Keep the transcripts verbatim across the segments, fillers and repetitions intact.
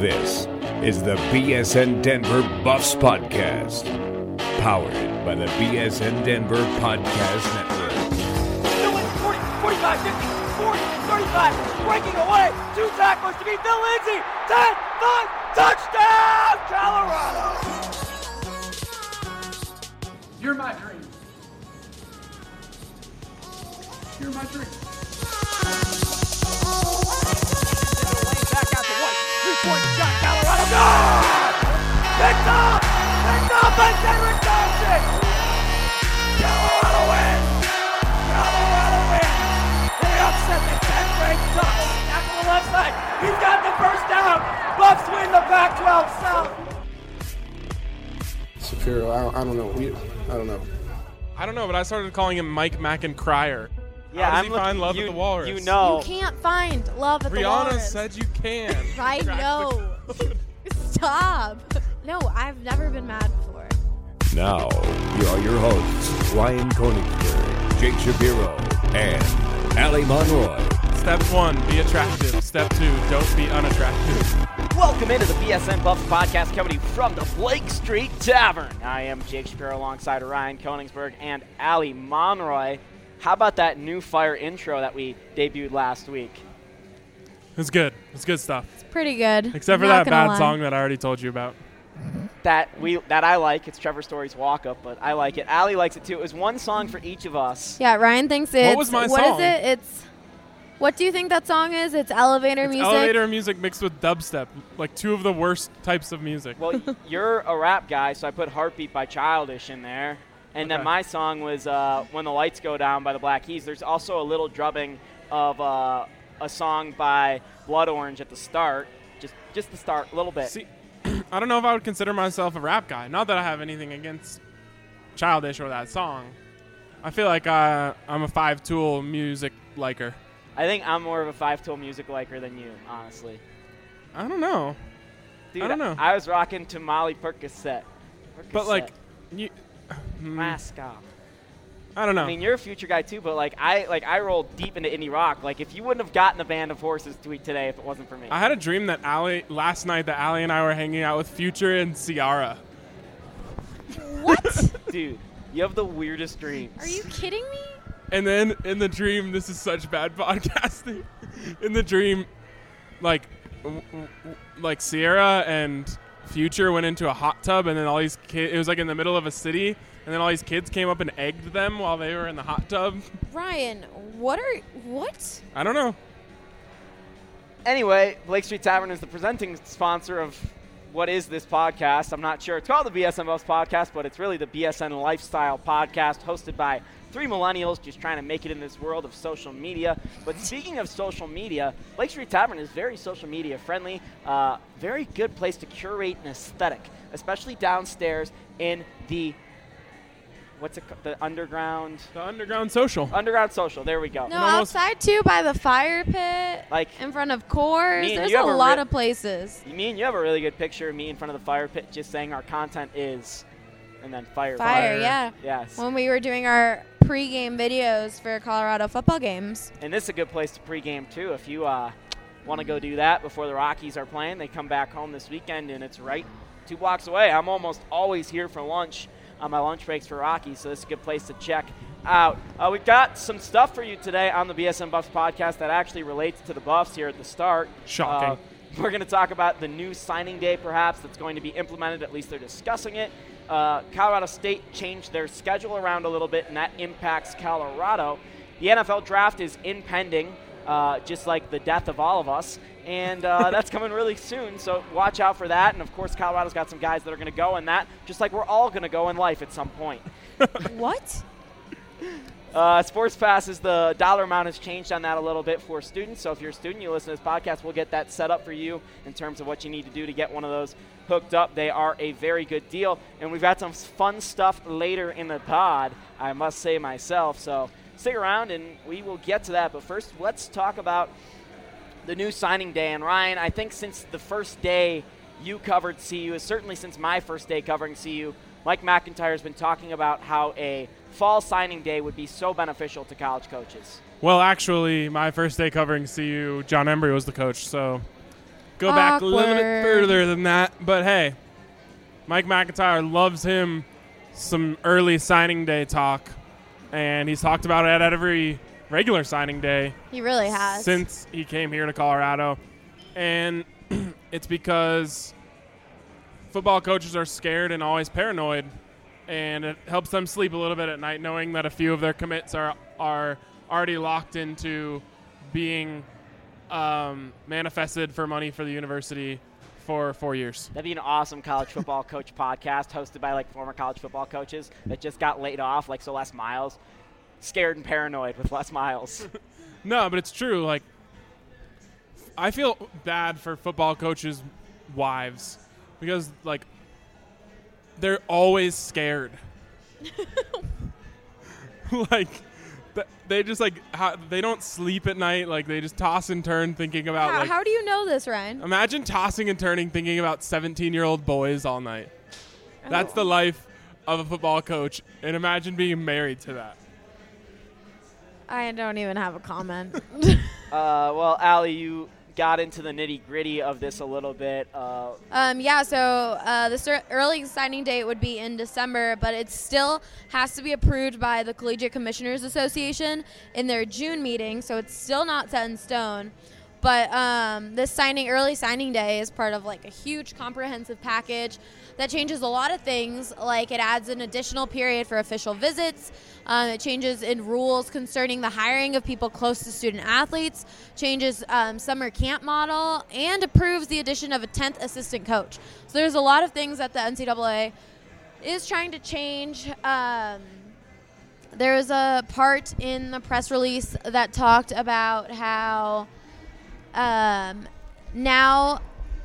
This is the B S N Denver Buffs Podcast, powered by the B S N Denver Podcast Network. forty, forty-five, fifty, forty, thirty-five, breaking away, two tacklers to beat Phil Lindsay, ten, five, touchdown, Colorado! You're my dream. You're my dream. Back out to White, three-point shot, Colorado, good! Picked up! Picked up by Derek Johnson! Colorado wins! Colorado wins! They upset the tenth-ranked Ducks. Back on the left side, he's got the first down! Buffs win the Pac twelve South! Shapiro, I don't, I don't know. We, I don't know. I don't know, but I started calling him Mike Mackin-Cryer. Yeah, How does I'm he looking, find love you, at the Walrus? You know. You can't find love at the Rihanna Walrus. said you can. I know. Stop. No, I've never been mad before. Now, here are your hosts, Ryan Koenigsberg, Jake Shapiro, and Ali Monroy. Step one, be attractive. Step two, don't be unattractive. Welcome into the B S N Buffs podcast coming to you from the Blake Street Tavern. I am Jake Shapiro alongside Ryan Koenigsberg and Ali Monroy. How about that new fire intro that we debuted last week? It's good. It's good stuff. It's pretty good. Except for Not that gonna bad lie. song that I already told you about. That we that I like. It's Trevor Story's Walk Up, but I like it. Ali likes it too. It was one song for each of us. Yeah, Ryan thinks it's. What was my What song? is it? It's. What do you think that song is? It's elevator It's music. elevator music mixed with dubstep, like two of the worst types of music. Well, you're a rap guy, so I put Heartbeat by Childish in there. And then Okay. my song was uh, When the Lights Go Down by the Black Keys. There's also a little drubbing of uh, a song by Blood Orange at the start. Just just the start, a little bit. See, I don't know if I would consider myself a rap guy. Not that I have anything against Childish or that song. I feel like uh, I'm a Five Tool music liker. I think I'm more of a Five-Tool music liker than you, honestly. I don't know. Dude, I don't know. I was rocking to Molly Percocet. But, like, you, Mask off. I don't know. I mean, you're a future guy too, but like I like I rolled deep into indie rock. Like if you wouldn't have gotten a Band of Horses tweet today if it wasn't for me. I had a dream that Allie, last night that Allie and I were hanging out with Future and Ciara. What? Dude, you have the weirdest dreams. Are you kidding me? And then in the dream, this is such bad podcasting. In the dream, like, w- w- like Sierra and Future went into a hot tub, and then all these kids, it was like in the middle of a city, and then all these kids came up and egged them while they were in the hot tub. Ryan, what are what? I don't know. Anyway, Blake Street Tavern is the presenting sponsor of what is this podcast. I'm not sure. It's called the B S N Buffs Podcast, but it's really the B S N Lifestyle Podcast, hosted by three millennials just trying to make it in this world of social media. But speaking of social media, Blake Street Tavern is very social media friendly. Uh, very good place to curate an aesthetic, especially downstairs in the what's it called? The underground The underground social. underground social. There we go. No, almost- outside too, by the fire pit, Like in front of Coors. me and There's you a have a lot re- of places. Me and you have a really good picture of me in front of the fire pit just saying our content is, and then fire. Fire, yeah. Yes. When we were doing our pregame videos for Colorado football games. And this is a good place to pregame, too. If you uh, want to go do that before the Rockies are playing, they come back home this weekend, and it's right two blocks away. I'm almost always here for lunch on my lunch breaks for Rockies, so this is a good place to check out. Uh, we've got some stuff for you today on the B S N Buffs podcast that actually relates to the Buffs here at the start. Shocking. Uh, we're going to talk about the new signing day, perhaps, that's going to be implemented. At least they're discussing it. Uh, Colorado State changed their schedule around a little bit, and that impacts Colorado. The N F L draft is impending, uh, just like the death of all of us, and uh, that's coming really soon, so watch out for that. And, of course, Colorado's got some guys that are going to go in that, just like we're all going to go in life at some point. What? Uh, Sports Pass is the dollar amount has changed on that a little bit for students. So if you're a student, you listen to this podcast, we'll get that set up for you in terms of what you need to do to get one of those hooked up. They are a very good deal. And we've got some fun stuff later in the pod, I must say myself. So stick around and we will get to that. But first, let's talk about the new signing day. And Ryan, I think since the first day you covered C U, certainly since my first day covering C U, Mike McIntyre has been talking about how a fall signing day would be so beneficial to college coaches. Well, actually, my first day covering C U, John Embry was the coach, so go back a little bit Awkward. further than that. But hey, Mike McIntyre loves him some early signing day talk, and he's talked about it at every regular signing day He really has. since he came here to Colorado. And it's because football coaches are scared and always paranoid, and it helps them sleep a little bit at night knowing that a few of their commits are are already locked into being um, manifested for money for the university for four years. That'd be an awesome college football coach podcast hosted by like former college football coaches that just got laid off, like so Les Miles. Scared and paranoid with Les Miles. No, but it's true. Like, I feel bad for football coaches' wives because, like, they're always scared. Like, th- they just, like, how, they don't sleep at night. Like, they just toss and turn thinking about, how, like, how do you know this, Ryan? imagine tossing and turning thinking about seventeen-year-old boys all night. That's Oh. the life of a football coach, and imagine being married to that. I don't even have a comment. uh, well, Allie, you got into the nitty-gritty of this a little bit. Uh, Um, yeah, so uh, the cer- early signing date would be in December, but it still has to be approved by the Collegiate Commissioners Association in their June meeting, so it's still not set in stone. But um, this signing, early signing day is part of like a huge comprehensive package that changes a lot of things. Like it adds an additional period for official visits. Um, it changes in rules concerning the hiring of people close to student athletes, changes um, summer camp model, and approves the addition of a tenth assistant coach. So there's a lot of things that the N C double A is trying to change. Um, there was a part in the press release that talked about how um, now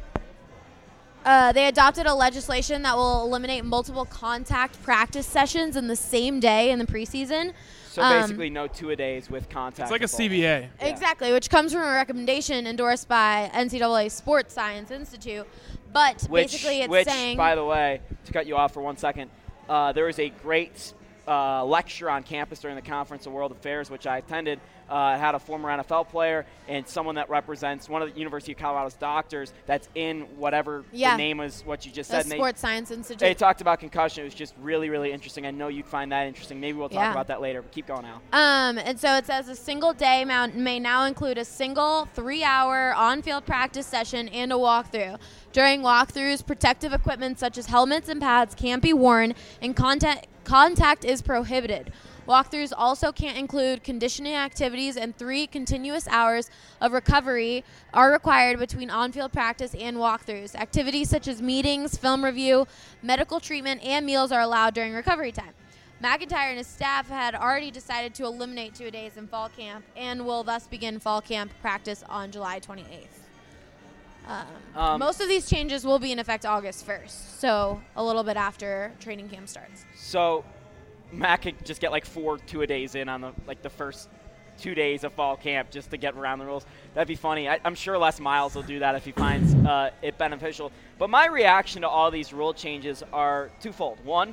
uh, they adopted a legislation that will eliminate multiple contact practice sessions in the same day in the preseason. so Um, basically no two-a-days with contact. It's like a football. C B A. Yeah. Exactly, which comes from a recommendation endorsed by N C double A Sports Science Institute. But Which, basically it's which saying... by the way, to cut you off for one second, uh, there was a great uh, lecture on campus during the Conference of World Affairs, which I attended. Uh, it had a former N F L player and someone that represents one of the University of Colorado's doctors that's in whatever Yeah. the name is, what you just the said. And they- Sports Science Institute. They talked about concussion. It was just really, really interesting. I know you'd find that interesting. Maybe we'll talk Yeah. about that later, but keep going, Al. Um, and so it says a single day mount may now include a single three-hour on-field practice session and a walkthrough. During walkthroughs, protective equipment such as helmets and pads can't be worn, and contact contact is prohibited. Walkthroughs also can't include conditioning activities, and three continuous hours of recovery are required between on-field practice and walkthroughs. Activities such as meetings, film review, medical treatment, and meals are allowed during recovery time. McIntyre and his staff had already decided to eliminate two-a-days in fall camp and will thus begin fall camp practice on July twenty-eighth. Um, Um, most of these changes will be in effect August first, so a little bit after training camp starts. So Matt could just get like four two-a-days in on the like the first two days of fall camp just to get around the rules. That'd be funny. I, I'm sure Les Miles will do that if he finds uh, it beneficial. But my reaction to all these rule changes are twofold. One,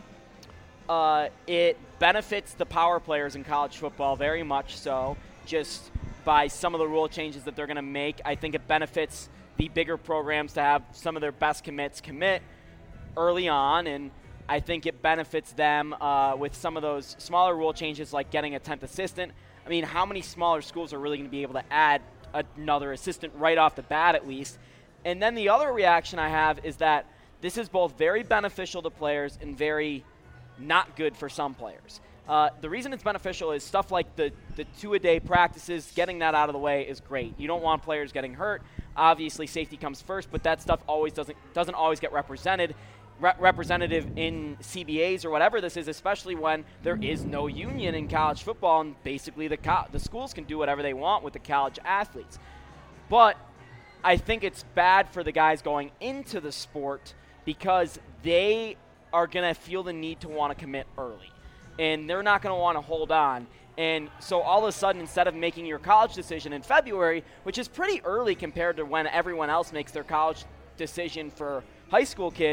uh, it benefits the power players in college football very much so, just by some of the rule changes that they're going to make. I think it benefits the bigger programs to have some of their best commits commit early on, and I think it benefits them uh, with some of those smaller rule changes like getting a tenth assistant. I mean, how many smaller schools are really going to be able to add another assistant right off the bat at least? And then the other reaction I have is that this is both very beneficial to players and very not good for some players. Uh, the reason it's beneficial is stuff like the, the two-a-day practices, getting that out of the way is great. You don't want players getting hurt. Obviously, safety comes first, but that stuff always doesn't doesn't always get represented. Re- representative in C B As or whatever this is, especially when there is no union in college football, and basically the co- the schools can do whatever they want with the college athletes. But I think it's bad for the guys going into the sport because they are going to feel the need to want to commit early, and they're not going to want to hold on. And so all of a sudden, instead of making your college decision in February, which is pretty early compared to when everyone else makes their college decision for high school kids,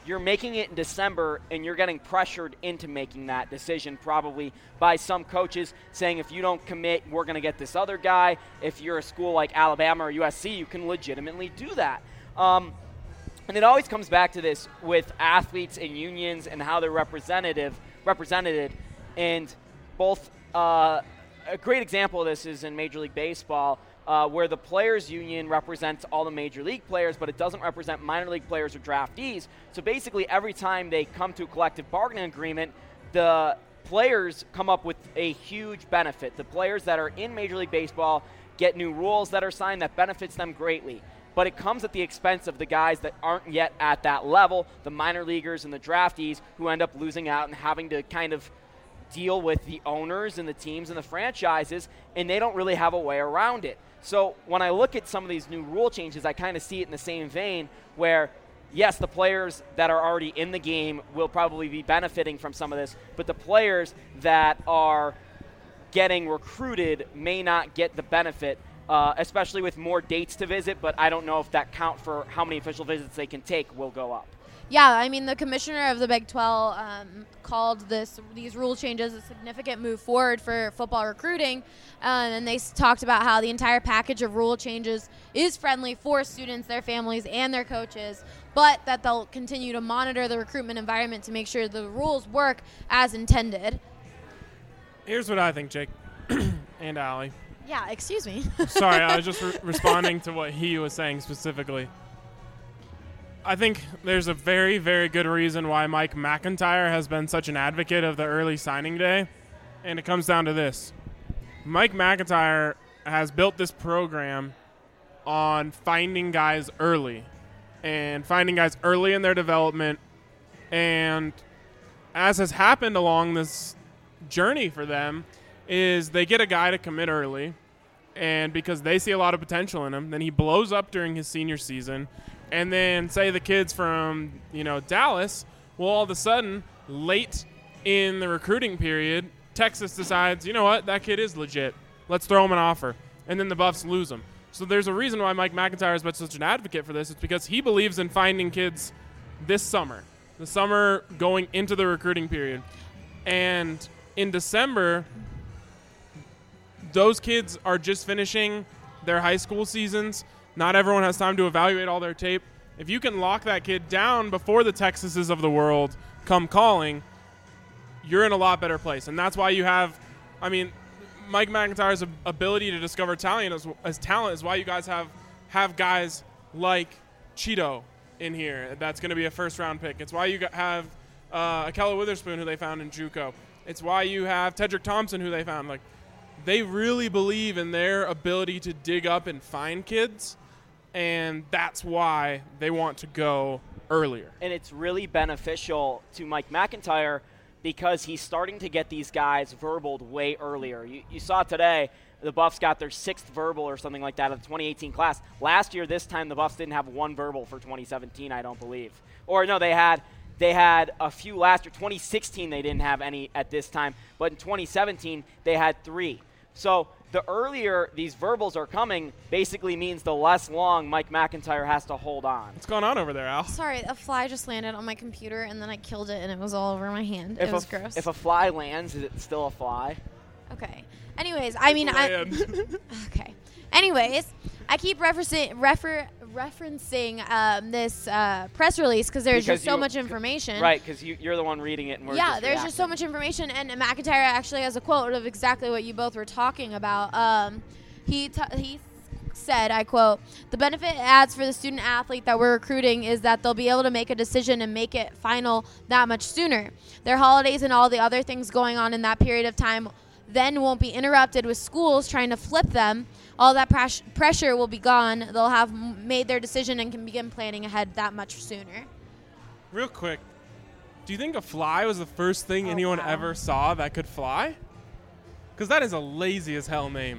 you're making it in December, and you're getting pressured into making that decision probably by some coaches saying, if you don't commit, we're going to get this other guy. If you're a school like Alabama or U S C, you can legitimately do that. Um, and it always comes back to this with athletes and unions and how they're representative, represented. And both uh, a great example of this is in Major League Baseball, Uh, where the players union represents all the major league players, but it doesn't represent minor league players or draftees. So basically every time they come to a collective bargaining agreement, the players come up with a huge benefit. The players that are in Major League Baseball get new rules that are signed that benefits them greatly. But it comes at the expense of the guys that aren't yet at that level, the minor leaguers and the draftees, who end up losing out and having to kind of deal with the owners and the teams and the franchises, and they don't really have a way around it. So when I look at some of these new rule changes, I kind of see it in the same vein where, yes, the players that are already in the game will probably be benefiting from some of this, but the players that are getting recruited may not get the benefit, uh, especially with more dates to visit, but I don't know if that count for how many official visits they can take will go up. Yeah, I mean, the commissioner of the Big twelve um, called this these rule changes a significant move forward for football recruiting, uh, and they s- talked about how the entire package of rule changes is friendly for students, their families, and their coaches, but that they'll continue to monitor the recruitment environment to make sure the rules work as intended. Here's what I think, Jake and Allie. Yeah, excuse me. Sorry, I was just re- responding to what he was saying specifically. I think there's a very, very good reason why Mike McIntyre has been such an advocate of the early signing day, and it comes down to this. Mike McIntyre has built this program on finding guys early and finding guys early in their development, and as has happened along this journey for them is they get a guy to commit early, and because they see a lot of potential in him, then he blows up during his senior season. And then say the kids from, you know, Dallas, well, all of a sudden, late in the recruiting period, Texas decides, you know what, that kid is legit. Let's throw him an offer. And then the Buffs lose him. So there's a reason why Mike McIntyre has been such an advocate for this. It's because he believes in finding kids this summer, the summer going into the recruiting period. And in December, those kids are just finishing their high school seasons. Not everyone has time to evaluate all their tape. If you can lock that kid down before the Texases of the world come calling, you're in a lot better place. And that's why you have, I mean, Mike McIntyre's ability to discover talent as, as talent is why you guys have have guys like Cheeto in here. That's going to be a first-round pick. It's why you got, have uh, Akella Witherspoon, who they found in JUCO. It's why you have Tedrick Thompson, who they found. Like, they really believe in their ability to dig up and find kids. And that's why they want to go earlier. And it's really beneficial to Mike McIntyre because he's starting to get these guys verbaled way earlier. You, you saw today the Buffs got their sixth verbal or something like that of the twenty eighteen class. Last year, this time, the Buffs didn't have one verbal for twenty seventeen, I don't believe. Or, no, they had they had a few last year. twenty sixteen, they didn't have any at this time. But in twenty seventeen, they had three. So the earlier these verbals are coming basically means the less long Mike McIntyre has to hold on. What's going on over there, Al? Sorry, a fly just landed on my computer, and then I killed it, and it was all over my hand. If it was a, gross. If a fly lands, is it still a fly? Okay. Anyways, I mean, I. Okay. Anyways, I keep referencing refer, referencing um, this uh, press release because there's Because just so you- much information. Right, because you, you're the one reading it, and we're yeah, just there's just so reacting. much information, and McIntyre actually has a quote of exactly what you both were talking about. Um, he t- he said, I quote, "The benefit it adds for the student athlete that we're recruiting is that they'll be able to make a decision and make it final that much sooner. Their holidays and all the other things going on in that period of time then won't be interrupted with schools trying to flip them. All that pres- pressure will be gone. They'll have m- made their decision and can begin planning ahead that much sooner." Real quick, do you think a fly was the first thing Oh, anyone wow. ever saw that could fly? Because that is a lazy as hell name.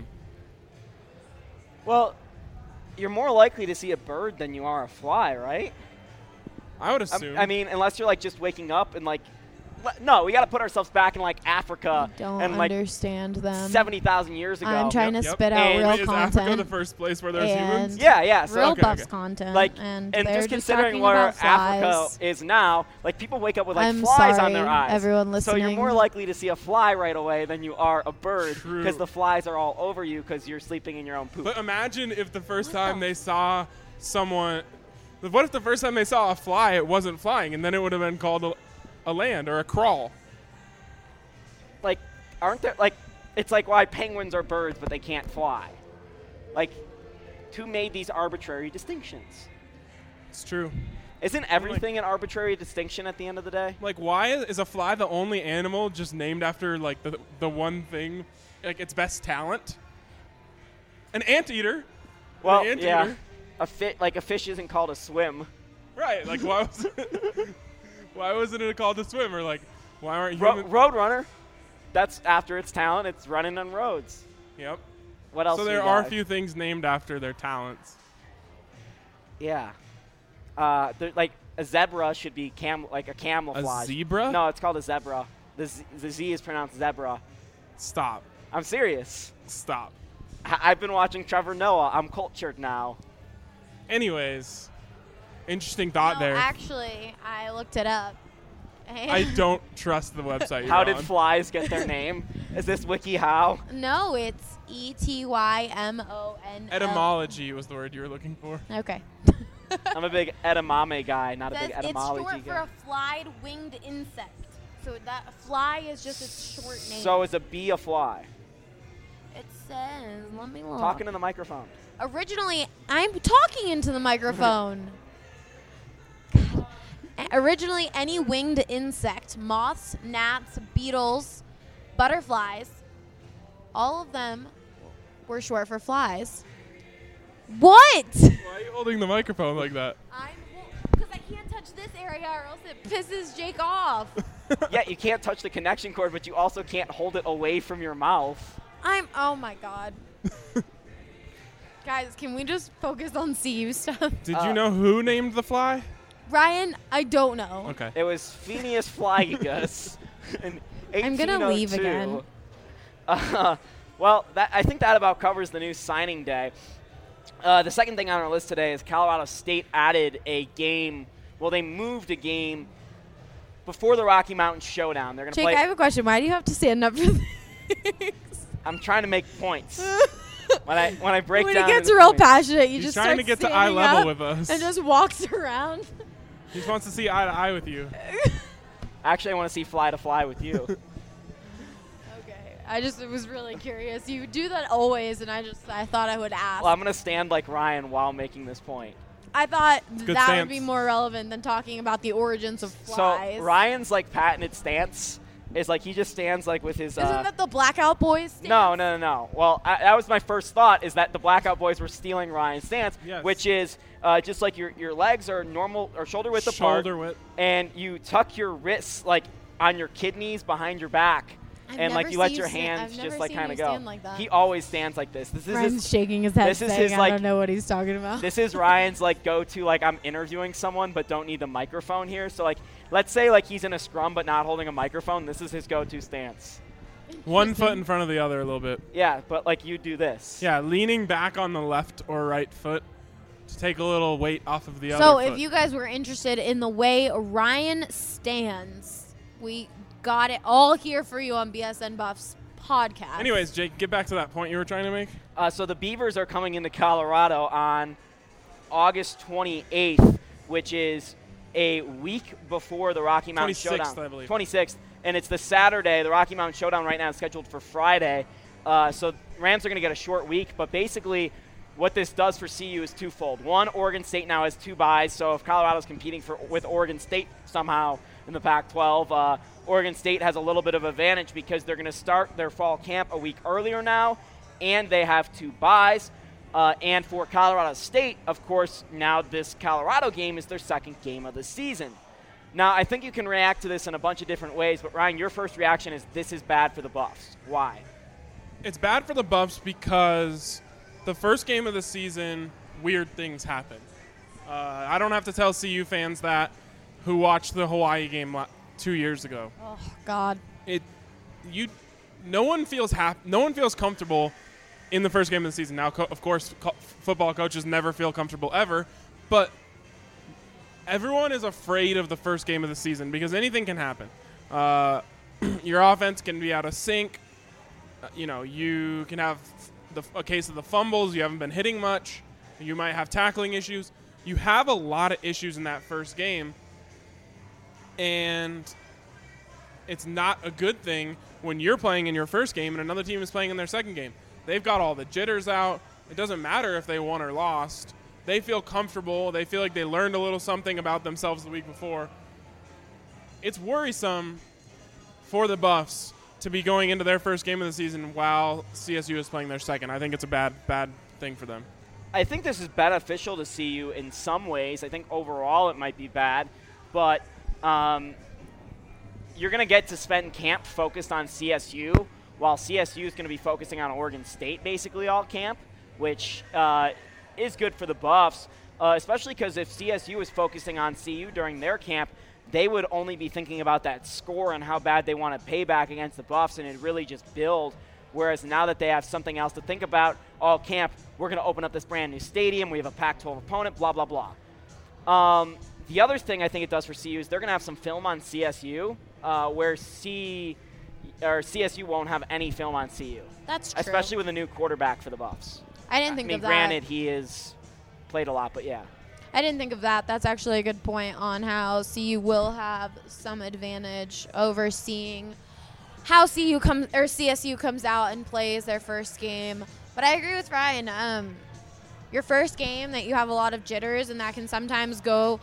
Well, you're more likely to see a bird than you are a fly, right? I would I, assume. I mean, unless you're like just waking up and like le- no, we got to put ourselves back in like Africa Don't and like understand them. seventy thousand years ago. I'm trying to Yep. spit out And real Wait, is Africa content. the first place where there's And humans? Yeah, yeah. So real okay, Buffs okay. content. like and, and they're just considering talking where about flies. Africa is now, like people wake up with like I'm flies sorry, on their eyes. everyone So you're listening. more likely to see a fly right away than you are a bird True. because the flies are all over you because you're sleeping in your own poop. But imagine if the first What time the they saw someone. What if the first time they saw a fly, it wasn't flying, and then it would have been called a, a land or a crawl? like, aren't there like? It's like why penguins are birds but they can't fly. Like, who made these arbitrary distinctions? It's true. Isn't everything an arbitrary distinction at the end of the day? Like, why is, is a fly the only animal just named after like the the one thing, like its best talent? An anteater. Well, An anteater. yeah, a fit like a fish isn't called a swim. Right. Like, why was it, why wasn't it called a swim? Or like, why aren't Ro- humans? Roadrunner, that's after its talent. It's running on roads. Yep. What else? So do there you are a got? few things named after their talents. Yeah. Uh, there- like a zebra should be cam like a camouflage. zebra? No, it's called a zebra. The Z, the Z is pronounced zebra. Stop. I'm serious. Stop. I- I've been watching Trevor Noah. I'm cultured now. Anyways, interesting thought no, there. actually, I looked it up. I don't trust the website you're How on. did flies get their name? Is this WikiHow? No, it's E T Y M O N. Etymology was the word you were looking for. Okay. I'm a big edamame guy, not a Says big it's etymology short for guy. a flied winged insect. So that fly is just its short name. So is a bee a fly? it says, let me look. Talking to the microphone. Originally, I'm talking into the microphone. God. Originally, any winged insect, moths, gnats, beetles, butterflies, all of them were short for flies. What? Why are you holding the microphone like that? I'm because I can't touch this area or else it pisses Jake off. Yeah, you can't touch the connection cord, but you also can't hold it away from your mouth. I'm. Oh my god. Guys, can we just focus on C U stuff? Did Uh, you know who named the fly? Ryan, I don't know. Okay. It was Phineas Flygus in I'm gonna leave eighteen oh two. again. Uh, well, that, I think that about covers the new signing day. Uh, the second thing on our list today is Colorado State added a game. Well, they moved a game before the Rocky Mountain Showdown. They're going to Jake, play. I have a question. Why do you have to stand up for things? I'm trying to make points. when I when I break when down he gets into real points. passionate, you He's just trying start to get to standing eye level up with us. and just walks around. He just wants to see eye to eye with you. Actually, I want to see fly to fly with you. Okay, I just was really curious. You do that always, and I just I thought I would ask. Well, I'm going to stand like Ryan while making this point. I thought good that stance. would be more relevant than talking about the origins of flies. So Ryan's like patented stance is like he just stands like with his. Isn't uh, that the Blackout Boys? Stance? No, no, no, no. Well, I, that was my first thought is that the Blackout Boys were stealing Ryan's stance, Yes. which is uh, just like your your legs are normal or shoulder width apart, Shoulder width. and you tuck your wrists like on your kidneys behind your back, I've and like never you let seen your you sta- hands I've never just like seen kind of you go. stand like that. He always stands like this. This is Ryan's his, shaking his head this is saying, his, I like- don't know what he's talking about. this is Ryan's like go-to like I'm interviewing someone but don't need the microphone here. So like let's say like he's in a scrum but not holding a microphone. This is his go-to stance. One foot in front of the other a little bit. Yeah, but like you do this. Yeah, leaning back on the left or right foot to take a little weight off of the other So foot. if you guys were interested in the way Ryan stands, we got it all here for you on B S N Buffs podcast. Anyways, Jake, get back to that point you were trying to make. Uh, so the Beavers are coming into Colorado on August twenty-eighth, which is a week before the Rocky Mountain twenty-sixth, Showdown. I believe. twenty-sixth, and it's the Saturday. The Rocky Mountain Showdown right now is scheduled for Friday. Uh, so Rams are going to get a short week, but basically what this does for C U is twofold. One, Oregon State now has two byes, so if Colorado's competing for with Oregon State somehow in the Pac twelve, uh, Oregon State has a little bit of advantage because they're going to start their fall camp a week earlier now, and they have two byes. Uh, and for Colorado State, of course, now this Colorado game is their second game of the season. Now, I think you can react to this in a bunch of different ways, but Ryan, your first reaction is this is bad for the Buffs. Why? It's bad for the Buffs because the first game of the season, weird things happen. Uh, I don't have to tell C U fans that who watched the Hawaii game la- two years ago. Oh God. It, you, no one feels hap- No one feels comfortable in the first game of the season. Now, co- of course, co- football coaches never feel comfortable ever, but everyone is afraid of the first game of the season because anything can happen. Uh, your offense can be out of sync. Uh, you know, you can have the, a case of the fumbles. You haven't been hitting much. You might have tackling issues. You have a lot of issues in that first game, and it's not a good thing when you're playing in your first game and another team is playing in their second game. They've got all the jitters out. It doesn't matter if they won or lost. They feel comfortable. They feel like they learned a little something about themselves the week before. It's worrisome for the Buffs to be going into their first game of the season while C S U is playing their second. I think it's a bad, bad thing for them. I think this is beneficial to C U in some ways. I think overall it might be bad, but um, you're going to get to spend camp focused on C S U, while C S U is going to be focusing on Oregon State basically all camp, which uh, is good for the Buffs, uh, especially because if C S U is focusing on C U during their camp, they would only be thinking about that score and how bad they want to pay back against the Buffs, and it'd really just build. Whereas now that they have something else to think about all camp, we're going to open up this brand new stadium. We have a Pac twelve opponent, blah, blah, blah. Um, the other thing I think it does for C U is they're going to have some film on C S U, uh, where C or C S U won't have any film on C U. That's true. Especially with a new quarterback for the Buffs. I didn't think I mean, of that. granted, he has played a lot, but yeah. I didn't think of that. That's actually a good point on how C U will have some advantage over seeing how C U comes or C S U comes out and plays their first game. But I agree with Ryan. Um, your first game that you have a lot of jitters, and that can sometimes go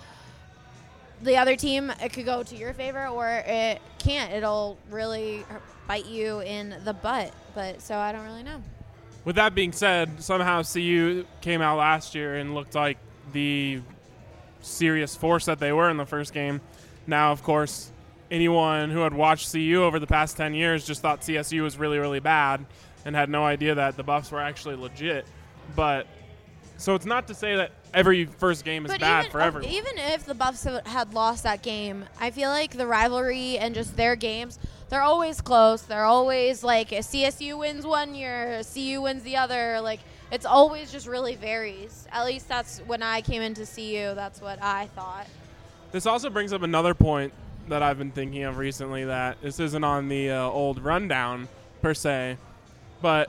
the other team. It could go to your favor, or it can't. It'll really bite you in the butt. But so I don't really know. With that being said, somehow C U came out last year and looked like the serious force that they were in the first game. Now, of course, anyone who had watched C U over the past ten years just thought C S U was really, really bad and had no idea that the Buffs were actually legit. But so it's not to say that every first game is but bad even, for everyone. Even if the Buffs had lost that game, I feel like the rivalry and just their games, they're always close. They're always like C S U wins one year, C U wins the other. Like, it's always just really varies. At least that's when I came into C U. That's what I thought. This also brings up another point that I've been thinking of recently, that this isn't on the uh, old rundown per se, but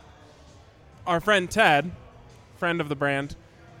our friend Ted, friend of the brand,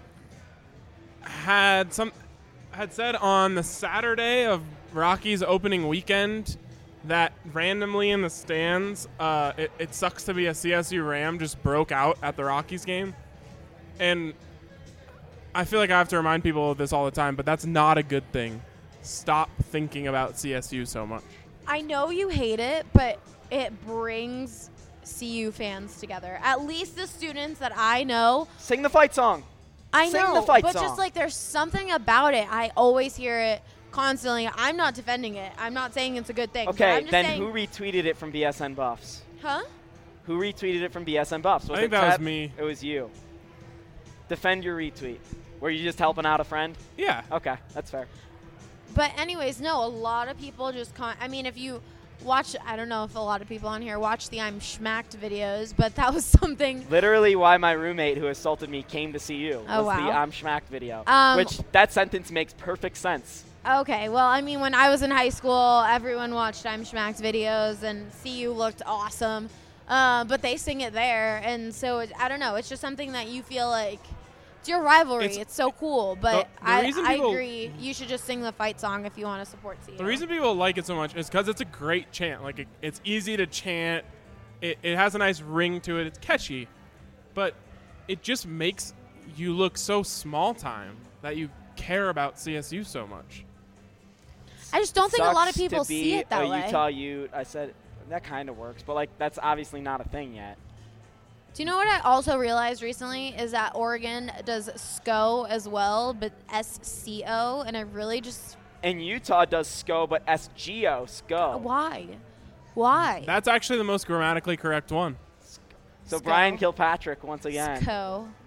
had some had said on the Saturday of Rockies opening weekend that randomly in the stands, uh, it, it sucks to be a C S U Ram, just broke out at the Rockies game. And I feel like I have to remind people of this all the time, but that's not a good thing. Stop thinking about C S U so much. I know you hate it, but it brings C U fans together. At least the students that I know. Sing the fight song. I Sing know, the fight but song. just like there's something about it. I always hear it constantly. I'm not defending it. I'm not saying it's a good thing. but Okay, I'm just then saying, who retweeted it from B S N Buffs? Huh? Who retweeted it from B S N Buffs? Was I think it that was Ted? me. It was you. Defend your retweet. Were you just helping out a friend? Yeah. Okay, that's fair. But anyways, no, a lot of people just con- I mean, if you watch, I don't know if a lot of people on here watch the I'm Schmacked videos, but that was something. Literally why my roommate who assaulted me came to see you Oh, was the wow. I'm Schmacked video. Um, which, that sentence makes perfect sense. Okay, well, I mean, when I was in high school, everyone watched I'm Schmacked videos, and C U looked awesome. Uh, but they sing it there, and so it, I don't know. It's just something that you feel like it's your rivalry. It's, It's- so cool, but the- the I, reason I people- agree. You should just sing the fight song if you want to support C U. The reason people like it so much is because it's a great chant. Like, it, it's easy to chant. It, it has a nice ring to it. It's catchy. But it just makes you look so small time that you care about C S U so much. I just don't think a lot of Sucks to people be see it that a way. Utah Ute. I said that kind of works, but like that's obviously not a thing yet. Do you know what I also realized recently is that Oregon does S C O as well, but S C O, and I really just And Utah does S C O, but S G O, S C O. why, why? That's actually the most grammatically correct one. So S C O. Brian Kilpatrick once again. S C O.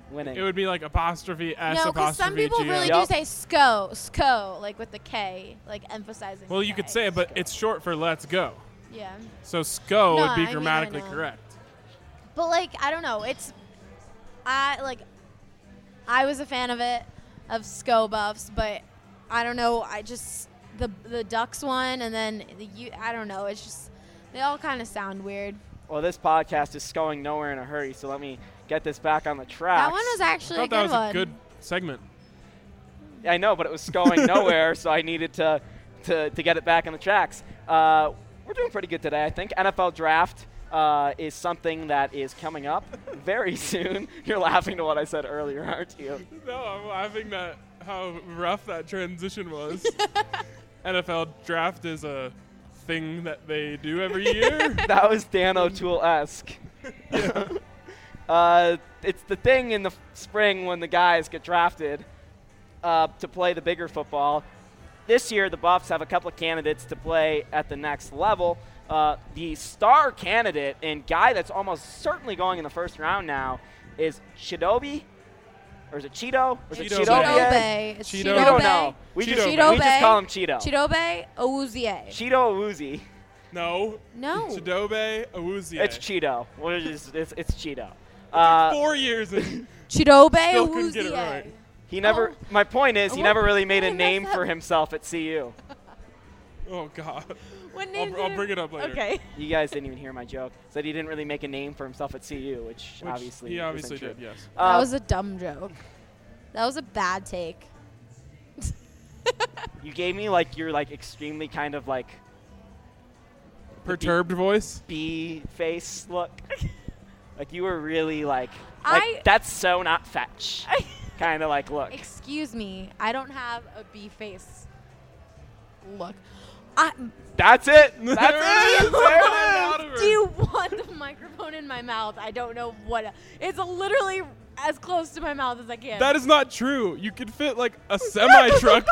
winning. It would be like apostrophe S No, because apostrophe some people G really O. Yep. do say SCO, SCO, like with the K, like emphasizing. Well, the you K. could say it, but SCO. it's short for let's go. Yeah. So SCO No, would be I mean, I grammatically know. correct. But like, I don't know. It's, I like, I was a fan of it, of SCO buffs, but I don't know. I just the the Ducks one, and then the U. I don't know. It's just they all kind of sound weird. Well, this podcast is going nowhere in a hurry, so let me get this back on the tracks. That one was I actually a thought good that was one. a good segment. I know, but it was going nowhere, so I needed to, to, to get it back on the tracks. Uh, we're doing pretty good today, I think. N F L draft uh, is something that is coming up very soon. You're laughing to what I said earlier, aren't you? No, I'm laughing at how rough that transition was. N F L draft is a thing that they do every year. That was Dan O'Toole-esque. uh, it's the thing in the f- spring when the guys get drafted uh, to play the bigger football. This year, the Buffs have a couple of candidates to play at the next level. Uh, the star candidate and guy that's almost certainly going in the first round now is Chidobe, or is it Cheeto? Or is it Cheeto Chidobe? Chidobe. It's Cheeto. We Chidobe. don't know. We Cheeto just, Cheeto we just Bay. call him Cheeto. Chidobe Awuzie. Cheeto Awuzie. No. No. Chidobe Awuzie. It's Cheeto. We're just, it's, it's Cheeto. Uh, Four years in. Chidobe Still couldn't get it Awuzie. right. he never. Oh. My point is, he What- never really made what a did I name mess for up? himself at C U. Oh, God. What I'll, name br- I'll did bring it up later. Okay. You guys didn't even hear my joke. Said he didn't really make a name for himself at C U, which, Which obviously he isn't obviously true. did, yes. Uh, That was a dumb joke. That was a bad take. you gave me like your like extremely kind of like Perturbed voice. bee face look. Like you were really like, like I- that's so not fetch. Kind of like look. Excuse me. I don't have a bee face. Look. I, That's it. That's There it. it is. There Out it of is. her. do you want the microphone in my mouth? I don't know what. It's literally as close to my mouth as I can. That is not true. You could fit like a semi truck.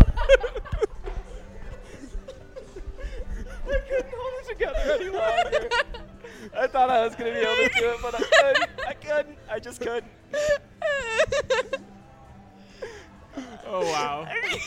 I couldn't hold it together any longer. I thought I was gonna be able to do it, but I couldn't. I couldn't. I just couldn't. Oh, wow.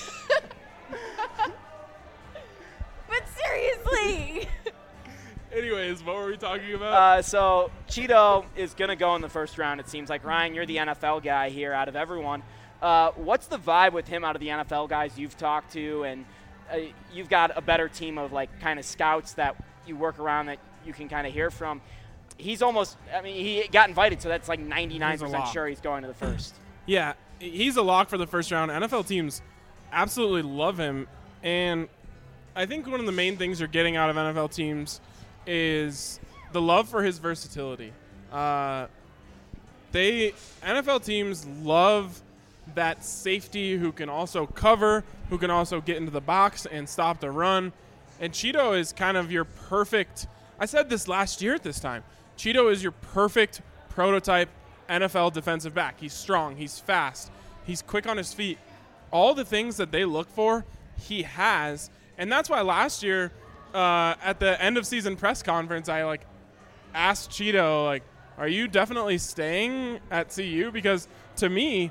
But seriously. Anyways, what were we talking about? Uh, so Cheeto is gonna go in the first round. It seems like. Ryan, you're the N F L guy here out of everyone. Uh, what's the vibe with him out of the N F L guys you've talked to, and uh, you've got a better team of like kind of scouts that you work around that you can kind of hear from. He's almost. I mean, he got invited, so that's like ninety-nine He's a percent lock. sure he's going to the first. Yeah, he's a lock for the first round. N F L teams absolutely love him. And I think one of the main things you're getting out of N F L teams is the love for his versatility. Uh, they N F L teams love that safety who can also cover, who can also get into the box and stop the run. And Cheeto is kind of your perfect – I said this last year at this time. Cheeto is your perfect prototype N F L defensive back. He's strong. He's fast. He's quick on his feet. All the things that they look for, he has. And that's why last year uh, at the end of season press conference, I like asked Cheeto, like, are you definitely staying at C U? Because to me,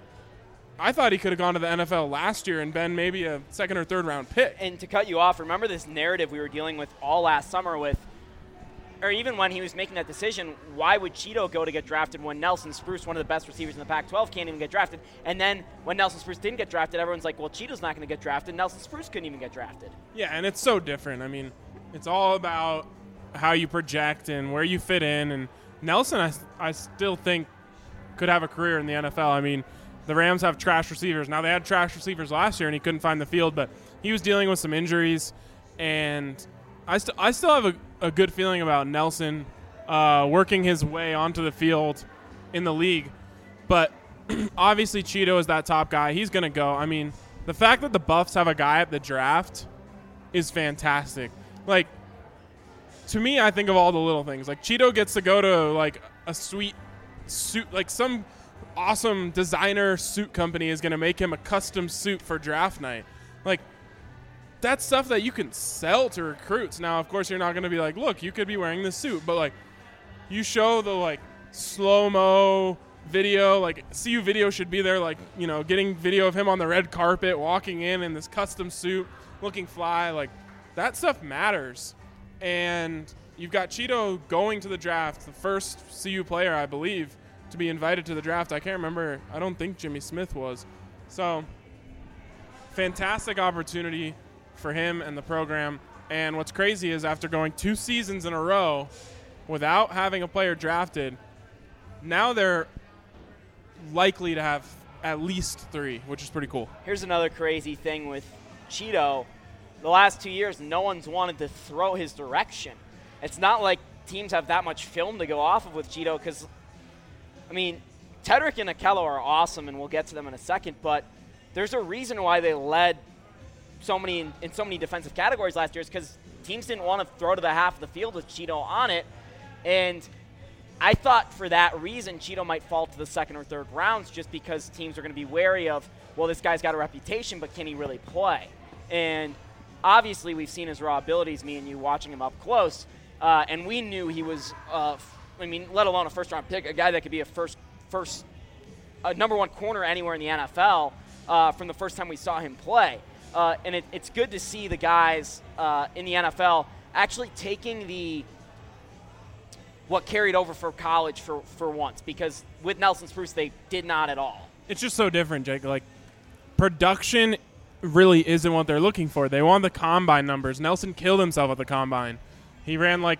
I thought he could have gone to the N F L last year and been maybe a second or third round pick. And to cut you off, remember this narrative we were dealing with all last summer with, or even when he was making that decision, why would Cheeto go to get drafted when Nelson Spruce, one of the best receivers in the Pac twelve, can't even get drafted? And then when Nelson Spruce didn't get drafted, everyone's like, well, Cheeto's not going to get drafted. Nelson Spruce couldn't even get drafted. Yeah, and it's so different. I mean, it's all about how you project and where you fit in. And Nelson, I, I still think, could have a career in the N F L. I mean, the Rams have trash receivers. Now, they had trash receivers last year, and he couldn't find the field, but he was dealing with some injuries. And I, st- I still have a, a good feeling about Nelson uh, working his way onto the field in the league. But obviously, Cheeto is that top guy. He's going to go. I mean, the fact that the Buffs have a guy at the draft is fantastic. Like, to me, I think of all the little things. Like, Cheeto gets to go to, like, a sweet suit, like some awesome designer suit company is going to make him a custom suit for draft night. Like, that's stuff that you can sell to recruits. Now, of course, you're not going to be like, look, you could be wearing this suit. But, like, you show the, like, slow-mo video. Like, C U video should be there, like, you know, getting video of him on the red carpet, walking in in this custom suit, looking fly. Like, that stuff matters. And you've got Cheeto going to the draft, the first C U player, I believe, to be invited to the draft. I can't remember. I don't think Jimmy Smith was. So, fantastic opportunity for him and the program. And what's crazy is after going two seasons in a row without having a player drafted, now they're likely to have at least three, which is pretty cool. Here's another crazy thing with Cheeto. The last two years, no one's wanted to throw his direction. It's not like teams have that much film to go off of with Cheeto because, I mean, Tedrick and Okello are awesome, and we'll get to them in a second, but there's a reason why they led so many in, in so many defensive categories last year is because teams didn't want to throw to the half of the field with Cheeto on it, and I thought for that reason Cheeto might fall to the second or third rounds just because teams are going to be wary of, well, this guy's got a reputation, but can he really play? And obviously we've seen his raw abilities, me and you watching him up close, uh, and we knew he was, uh, f- I mean, let alone a first-round pick, a guy that could be a first, first, a number one corner anywhere in the N F L uh, from the first time we saw him play. Uh, and it, it's good to see the guys uh, in the N F L actually taking the what carried over for college for, for once, because with Nelson Spruce, they did not at all. It's just so different, Jake. Like, production really isn't what they're looking for. They want the combine numbers. Nelson killed himself at the combine. He ran like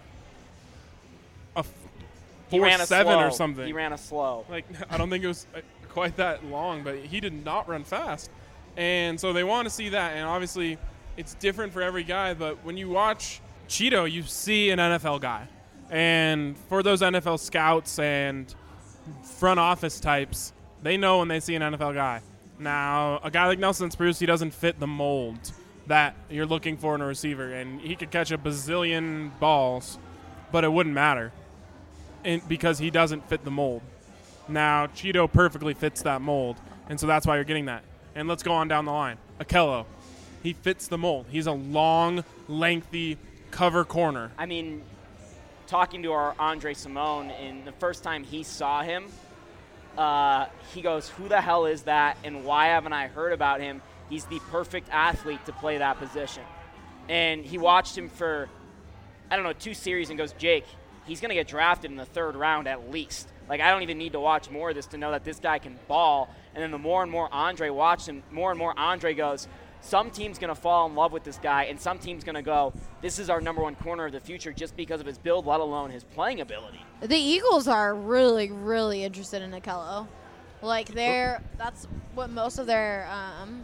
a four seven or something. He ran a slow. Like, I don't think it was quite that long, but he did not run fast. And so they want to see that, and obviously it's different for every guy, but when you watch Cheeto, you see an N F L guy. And for those N F L scouts and front office types, they know when they see an N F L guy. Now, a guy like Nelson Spruce, he doesn't fit the mold that you're looking for in a receiver, and he could catch a bazillion balls, but it wouldn't matter and because he doesn't fit the mold. Now, Cheeto perfectly fits that mold, and so that's why you're getting that. And let's go on down the line. Okello, he fits the mold. He's a long, lengthy cover corner. I mean, talking to our Andre Simone, in the first time he saw him, uh, he goes, who the hell is that, and why haven't I heard about him? He's the perfect athlete to play that position. And he watched him for, I don't know, two series and goes, Jake, he's going to get drafted in the third round at least. Like, I don't even need to watch more of this to know that this guy can ball. And then the more and more Andre watched him, more and more Andre goes, some team's going to fall in love with this guy, and some team's going to go, this is our number one corner of the future just because of his build, let alone his playing ability. The Eagles are really, really interested in Okello. Like, they're that's what most of their um,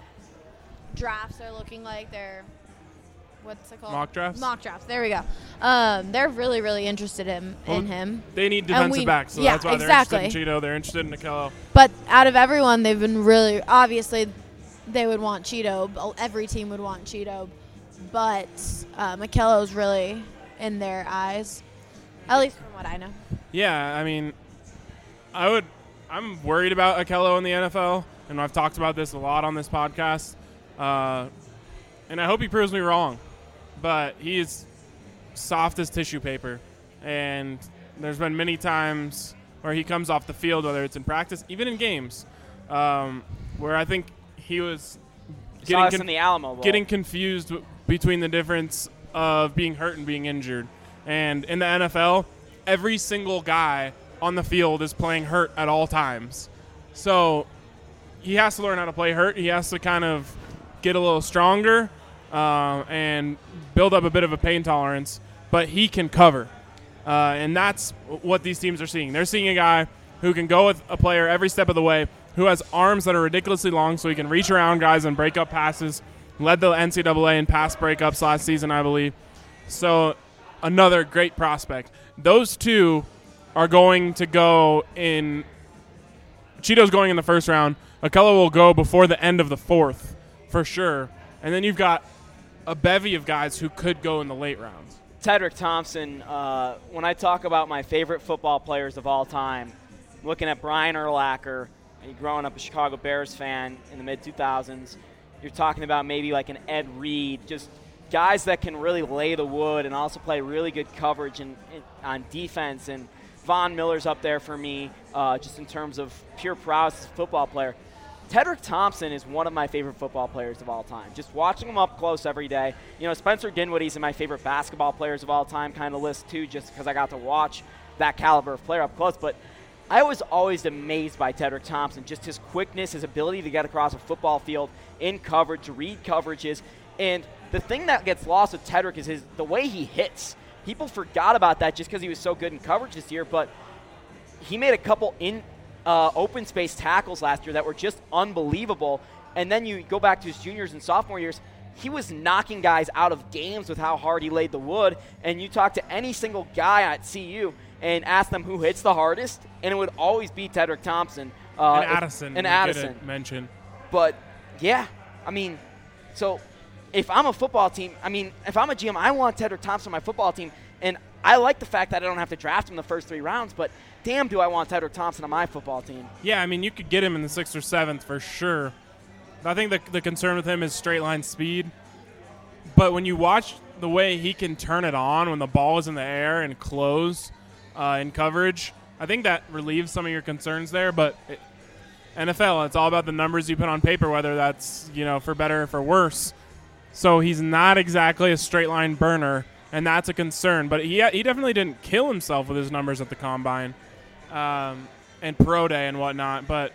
drafts are looking like. They're what's it called? Mock drafts? Mock drafts. There we go. Um, they're really, really interested in, well, in him. They need defensive we, backs, so yeah, that's why exactly. they're interested in Cheeto. They're interested in Okello. But out of everyone, they've been really – obviously, they would want Cheeto. Every team would want Cheeto. But um, Okello's really in their eyes, at least from what I know. Yeah, I mean, I would – I'm worried about Okello in the N F L, and I've talked about this a lot on this podcast. Uh, and I hope he proves me wrong. But he is soft as tissue paper. And there's been many times where he comes off the field, whether it's in practice, even in games, um, where I think he was getting, con- in the Alamo Bowl. getting confused w- between the difference of being hurt and being injured. And in the N F L, every single guy on the field is playing hurt at all times. So he has to learn how to play hurt. He has to kind of get a little stronger uh, and build up a bit of a pain tolerance, but he can cover. Uh, and that's what these teams are seeing. They're seeing a guy who can go with a player every step of the way, who has arms that are ridiculously long so he can reach around guys and break up passes. Led the N C double A in pass breakups last season, I believe. So another great prospect. Those two are going to go in – Cheeto's going in the first round. Okello will go before the end of the fourth for sure. And then you've got a bevy of guys who could go in the late rounds. Tedrick Thompson, uh, when I talk about my favorite football players of all time, looking at Brian Urlacher, and growing up a Chicago Bears fan in the mid two thousands, you're talking about maybe like an Ed Reed, just guys that can really lay the wood and also play really good coverage in, in, on defense. And Von Miller's up there for me, uh, just in terms of pure prowess as a football player. Tedrick Thompson is one of my favorite football players of all time. Just watching him up close every day. You know, Spencer Dinwiddie's in my favorite basketball players of all time kind of list too, just because I got to watch that caliber of player up close. But I was always amazed by Tedrick Thompson, just his quickness, his ability to get across a football field in coverage, to read coverages. And the thing that gets lost with Tedrick is his the way he hits. People forgot about that just because he was so good in coverage this year, but he made a couple in uh, open space tackles last year that were just unbelievable. And then you go back to his juniors and sophomore years, he was knocking guys out of games with how hard he laid the wood. And you talk to any single guy at C U and ask them who hits the hardest, and it would always be Tedrick Thompson. Uh, and Addison. And Addison. Mention. But, yeah, I mean, so – if I'm a football team, I mean, if I'm a G M, I want Tedrick Thompson on my football team, and I like the fact that I don't have to draft him the first three rounds, but damn do I want Tedrick Thompson on my football team. Yeah, I mean, you could get him in the sixth or seventh for sure. I think the, the concern with him is straight line speed. But when you watch the way he can turn it on when the ball is in the air and close uh, in coverage, I think that relieves some of your concerns there. But it, N F L, it's all about the numbers you put on paper, whether that's, you know, for better or for worse. So he's not exactly a straight line burner, and that's a concern. But he he definitely didn't kill himself with his numbers at the combine um, and pro day and whatnot. But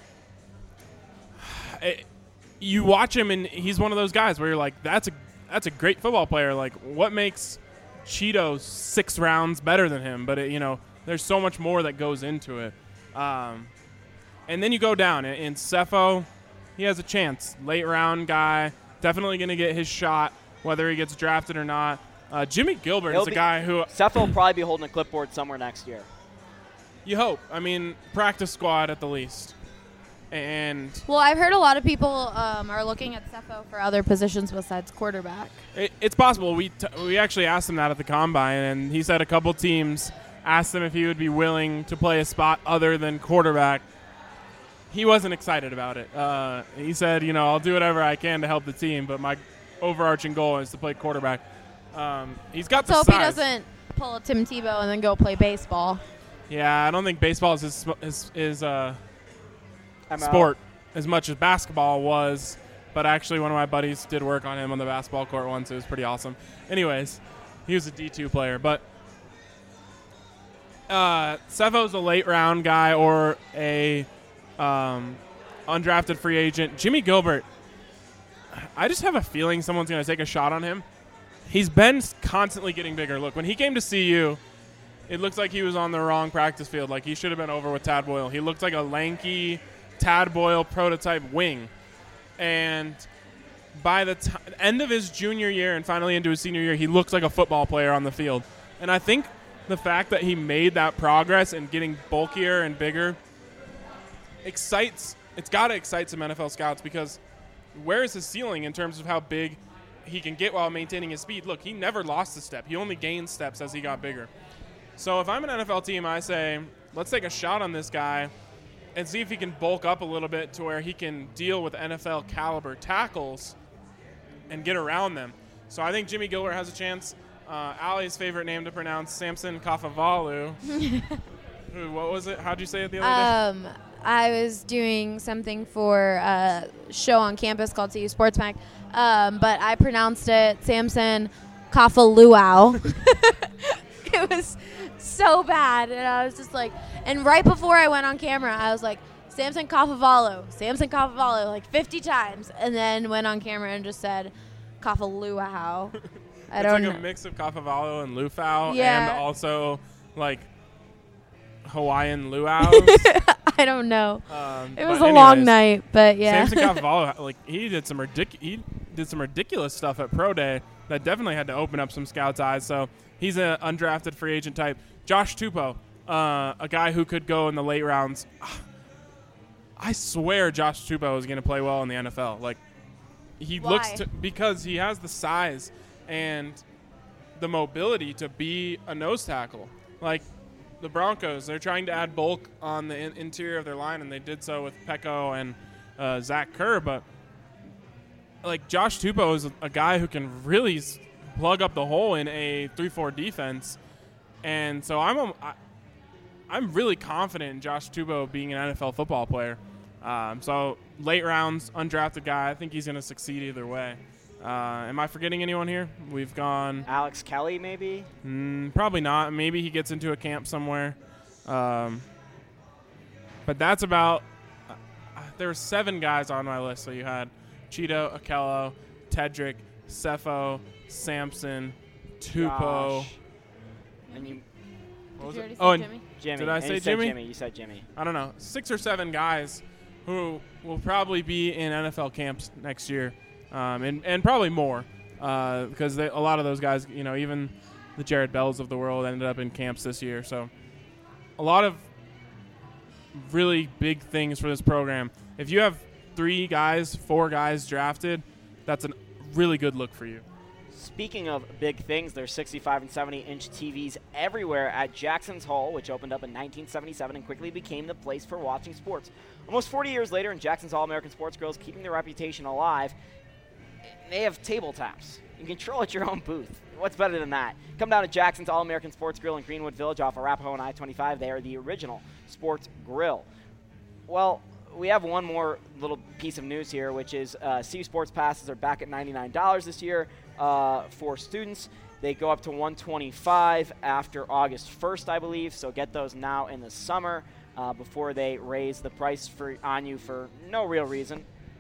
it, you watch him, and he's one of those guys where you're like, that's a that's a great football player. Like, what makes Cheeto six rounds better than him? But it, you know, there's so much more that goes into it. Um, and then you go down, and, and Cepho, he has a chance, late round guy. Definitely going to get his shot, whether he gets drafted or not. Uh, Jimmy Gilbert He'll is a be, guy who Cepho will probably be holding a clipboard somewhere next year. You hope. I mean, practice squad at the least. And well, I've heard a lot of people um, are looking at Cepho for other positions besides quarterback. It, it's possible. We t- we actually asked him that at the combine, and he said a couple teams asked him if he would be willing to play a spot other than quarterback. He wasn't excited about it. Uh, he said, you know, I'll do whatever I can to help the team, but my overarching goal is to play quarterback. Um, he's got Let's the hope size. he doesn't pull a Tim Tebow and then go play baseball. Yeah, I don't think baseball is his, his, his uh, I'm sport out. as much as basketball was, but actually one of my buddies did work on him on the basketball court once. It was pretty awesome. Anyways, he was a D two player, but uh, Cepho's a late round guy or a um, undrafted free agent. Jimmy Gilbert, I just have a feeling someone's going to take a shot on him. He's been constantly getting bigger. Look, when he came to C U, it looks like he was on the wrong practice field. Like he should have been over with Tad Boyle. He looked like a lanky Tad Boyle prototype wing. And by the t- end of his junior year and finally into his senior year, he looks like a football player on the field. And I think the fact that he made that progress and getting bulkier and bigger excites – it's got to excite some N F L scouts because where is his ceiling in terms of how big he can get while maintaining his speed? Look, he never lost a step. He only gained steps as he got bigger. So if I'm an N F L team, I say, let's take a shot on this guy and see if he can bulk up a little bit to where he can deal with N F L caliber tackles and get around them. So I think Jimmy Gilbert has a chance. Uh, Allie's favorite name to pronounce, Samson Kafavalu. Who, what was it? How'd you say it the other day? Um, I was doing something for a show on campus called C U Sports Mag, um, but I pronounced it Samson Kafaluau. It was so bad, and I was just like, and right before I went on camera, I was like, Samson Kafavalu, Samson Kafavalu, like fifty times, and then went on camera and just said Kafaluau. I it's don't like know. a mix of Kafavalu and Lufau, Yeah. and also like Hawaiian luau's. I don't know. Um, It was but a long anyways, night, but yeah. Samson Kafavalu, like he did some ridic- he did some ridiculous stuff at Pro Day that definitely had to open up some scouts' eyes. So he's an undrafted free agent type. Josh Tupou, uh, a guy who could go in the late rounds. I swear Josh Tupou is going to play well in the N F L. Like he Why? looks to, because he has the size and the mobility to be a nose tackle. Like the Broncos, they're trying to add bulk on the in- interior of their line, and they did so with Pecco and uh, Zach Kerr. But like Josh Tupou is a, a guy who can really s- plug up the hole in a three four defense, and so I'm a, I, I'm really confident in Josh Tebow being an N F L football player. Um, so late rounds, undrafted guy. I think he's going to succeed either way. Uh, am I forgetting anyone here? We've gone Alex Kelly, maybe? Mm, probably not. Maybe he gets into a camp somewhere. Um, but that's about uh, – there were seven guys on my list. So you had Cheeto, Akello, Tedrick, Cepho, Sampson, Tupou. Josh. And you What was Did you it? already Oh, say and Jimmy? Jimmy. Did I And say you said Jimmy? Jimmy? You said Jimmy. I don't know, six or seven guys who will probably be in N F L camps next year, um, and, and probably more uh, because they, a lot of those guys, you know, even the Jared Bells of the world ended up in camps this year. So a lot of really big things for this program. If you have three guys, four guys drafted, that's a really good look for you. Speaking of big things, there's sixty-five and seventy inch T Vs everywhere at Jackson's Hall, which opened up in nineteen seventy-seven and quickly became the place for watching sports. Almost forty years later, and Jackson's All-American Sports Grills keeping their reputation alive, they have table taps. You can control at your own booth. What's better than that? Come down to Jackson's All-American Sports Grill in Greenwood Village off Arapahoe and I twenty-five. They are the original sports grill. Well, we have one more little piece of news here, which is uh, C U Sports Passes are back at ninety-nine dollars this year uh, for students. They go up to one hundred twenty-five dollars after August first, I believe, so get those now in the summer uh, before they raise the price for on you for no real reason.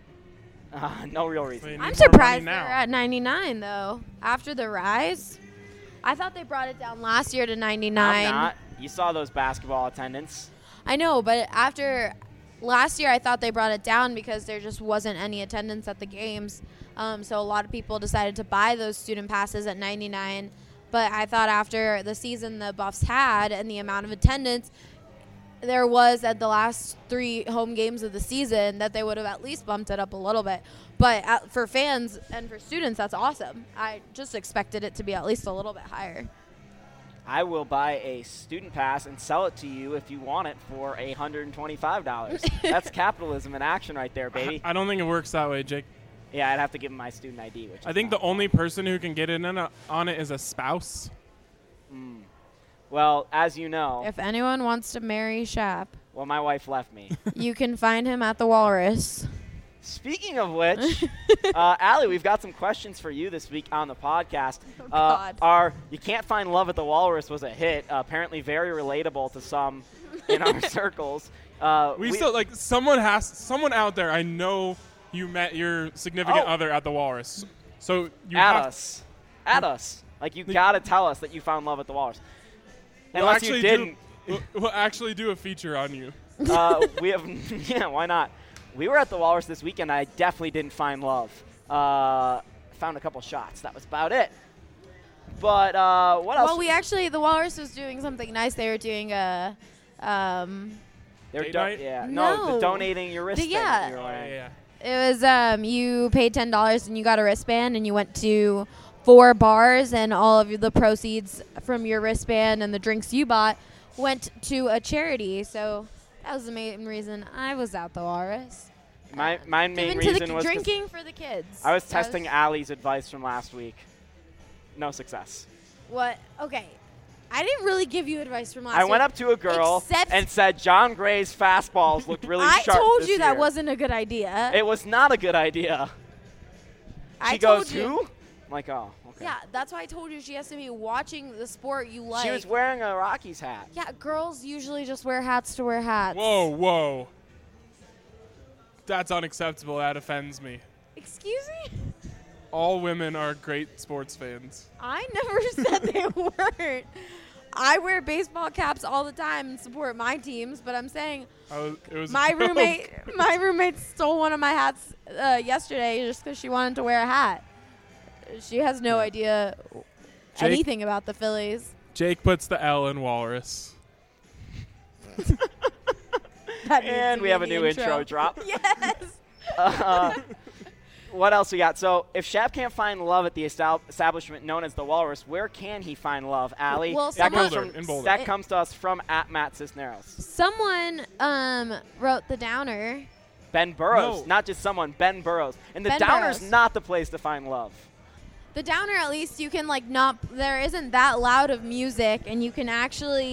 Uh, no real reason. They need I'm more surprised money they're now. at ninety-nine though. After the rise, I thought they brought it down last year to ninety-nine. I'm not. You saw those basketball attendance. I know, but after last year, I thought they brought it down because there just wasn't any attendance at the games. Um, so a lot of people decided to buy those student passes at ninety-nine. But I thought after the season the Buffs had and the amount of attendance there was at the last three home games of the season that they would have at least bumped it up a little bit. But at, for fans and for students, that's awesome. I just expected it to be at least a little bit higher. I will buy a student pass and sell it to you if you want it for one hundred twenty-five dollars. That's capitalism in action right there, baby. I don't think it works that way, Jake. Yeah, I'd have to give him my student I D. Which I is think the not only fun. person who can get in on, a, on it is a spouse. Mm. Well, as you know, If anyone wants to marry Shap, well, my wife left me. you can find him at the Walrus. Speaking of which, uh, Allie, we've got some questions for you this week on the podcast. Oh, uh, God. Our You Can't Find Love at the Walrus was a hit, uh, apparently very relatable to some in our circles. Uh, We, still like someone has someone out there. I know you met your significant Oh. other at the Walrus, so you at have us. At us. Like, you The- got to tell us that you found love at the Walrus. We'll Unless actually you didn't. Do, we'll, we'll actually do a feature on you. uh, we have, yeah, why not? We were at the Walrus this weekend. I definitely didn't find love. Uh, found a couple shots. That was about it. But uh, what else? Well, we actually, the Walrus was doing something nice. They were doing a, um, They were Date do- night? Yeah. No, No. the donating your wrist The- thing yeah. that you were Oh, wearing. yeah. it was, um, you paid ten dollars and you got a wristband and you went to four bars and all of the proceeds from your wristband and the drinks you bought went to a charity. So that was the main reason I was at the Walrus. My, my main Given to reason the was 'cause drinking for the kids. I was That testing Allie's advice from last week. No success. What? Okay. I didn't really give you advice from last I week. went up to a girl Except- and said John Gray's fastballs looked really I sharp told this you that year." wasn't a good idea. It was not a good idea. I She told goes, you. who? I'm like, oh, okay. Yeah, that's why I told you she has to be watching the sport you like. She was wearing a Rockies hat. Yeah, girls usually just wear hats to wear hats. Whoa, whoa. That's unacceptable. That offends me. Excuse me? All women are great sports fans. I never said they weren't. I wear baseball caps all the time and support my teams, but I'm saying I was, it was a my joke. roommate my roommate stole one of my hats uh, yesterday just because she wanted to wear a hat. She has no idea Jake- anything about the Phillies. Jake puts the L in Walrus. That needs And to we be have a the new intro drop. Yes. Uh, what else we got? So, if Shap can't find love at the estab- establishment known as the Walrus, where can he find love, Allie? Well, that comes someone- from In Boulder. that comes to us from at Matt Cisneros. Someone um, wrote the downer. Ben Burrows, No. not just someone, Ben Burrows. And the Ben Downer's Burrows. not the place to find love. The downer, at least you can like not. There isn't that loud of music, and you can actually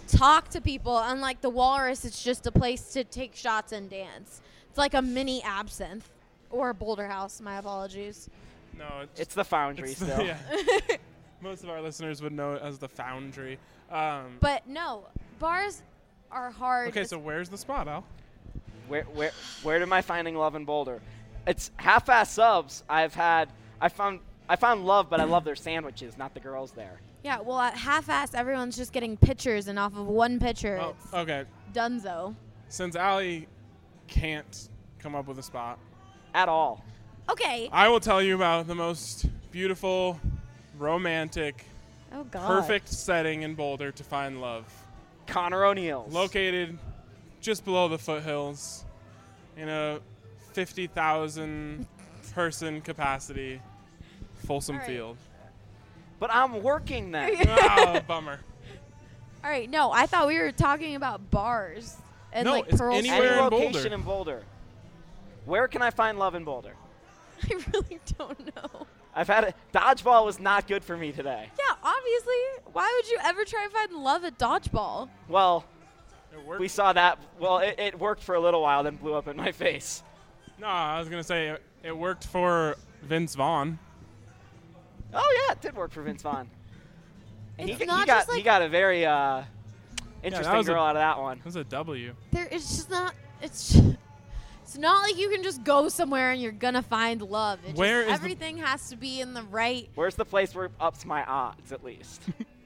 talk to people. Unlike the Walrus, it's just a place to take shots and dance. It's like a mini Absinthe or Boulder House. My apologies. No, it's, It's the Foundry it's the- still. yeah. Most of our listeners would know it as the Foundry. Um, But no, bars are hard. okay, so where's the spot, Al? Where where where am I finding love in Boulder? It's half-ass subs. I've had I found I found love, but I love their sandwiches, not the girls there. Yeah, well, at half-ass, everyone's just getting pictures, and off of one picture, Oh, it's okay. dunzo. Since Allie can't come up with a spot, At all. Okay. I will tell you about the most beautiful, romantic, Oh, God. perfect setting in Boulder to find love. Connor O'Neill's. Located just below the foothills in a fifty thousand person capacity Folsom All right. Field. But I'm working then. Oh, bummer. All right, no, I thought we were talking about bars and No, like it's Pearl Any anywhere Street. in Boulder. location in Boulder. Where can I find love in Boulder? I really don't know. I've had it. Dodgeball was not good for me today. Yeah, obviously. Why would you ever try and find love at dodgeball? Well, It worked. we saw that. Well, it, it worked for a little while, then blew up in my face. No, I was gonna say it, it worked for Vince Vaughn. Oh yeah, it did work for Vince Vaughn. And It's he, not he got just like- he got a very uh, interesting was a- girl out of that one. It was a W. There, it's just not. It's. Just, it's not like you can just go somewhere and you're gonna find love. It Where just, is the- everything has to be in the right. Where's the place where it ups my odds at least?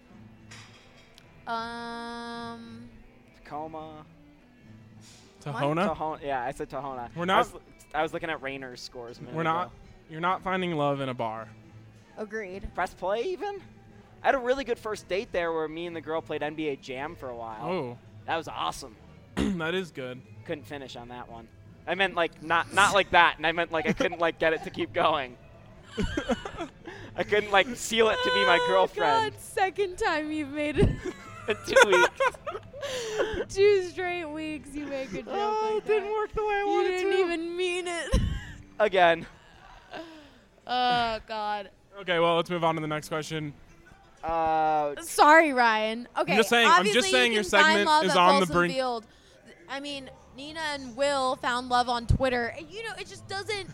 Um. Tacoma. Tahona. Tahona. Yeah, I said Tahona. We're I not- was, I was looking at Rainer's scores. A minute We're not. ago. You're not finding love in a bar. Agreed. Press play even. I had a really good first date there where me and the girl played N B A Jam for a while. Oh, That was awesome. that is good. Couldn't finish on that one. I meant like not not like that, and I meant like I couldn't like get it to keep going. I couldn't like seal it to be my girlfriend God, second time you've made it. in two weeks. Two straight weeks you make a joke Oh, like it didn't that. work the way I You wanted didn't to. even mean it. Again. Oh God. Okay, well, let's move on to the next question. Uh, Sorry, Ryan. Okay. just saying- I'm just obviously saying you your can find segment love is at on the Folsom brink- Field. I mean, Nina and Will found love on Twitter. And, You know, it just doesn't.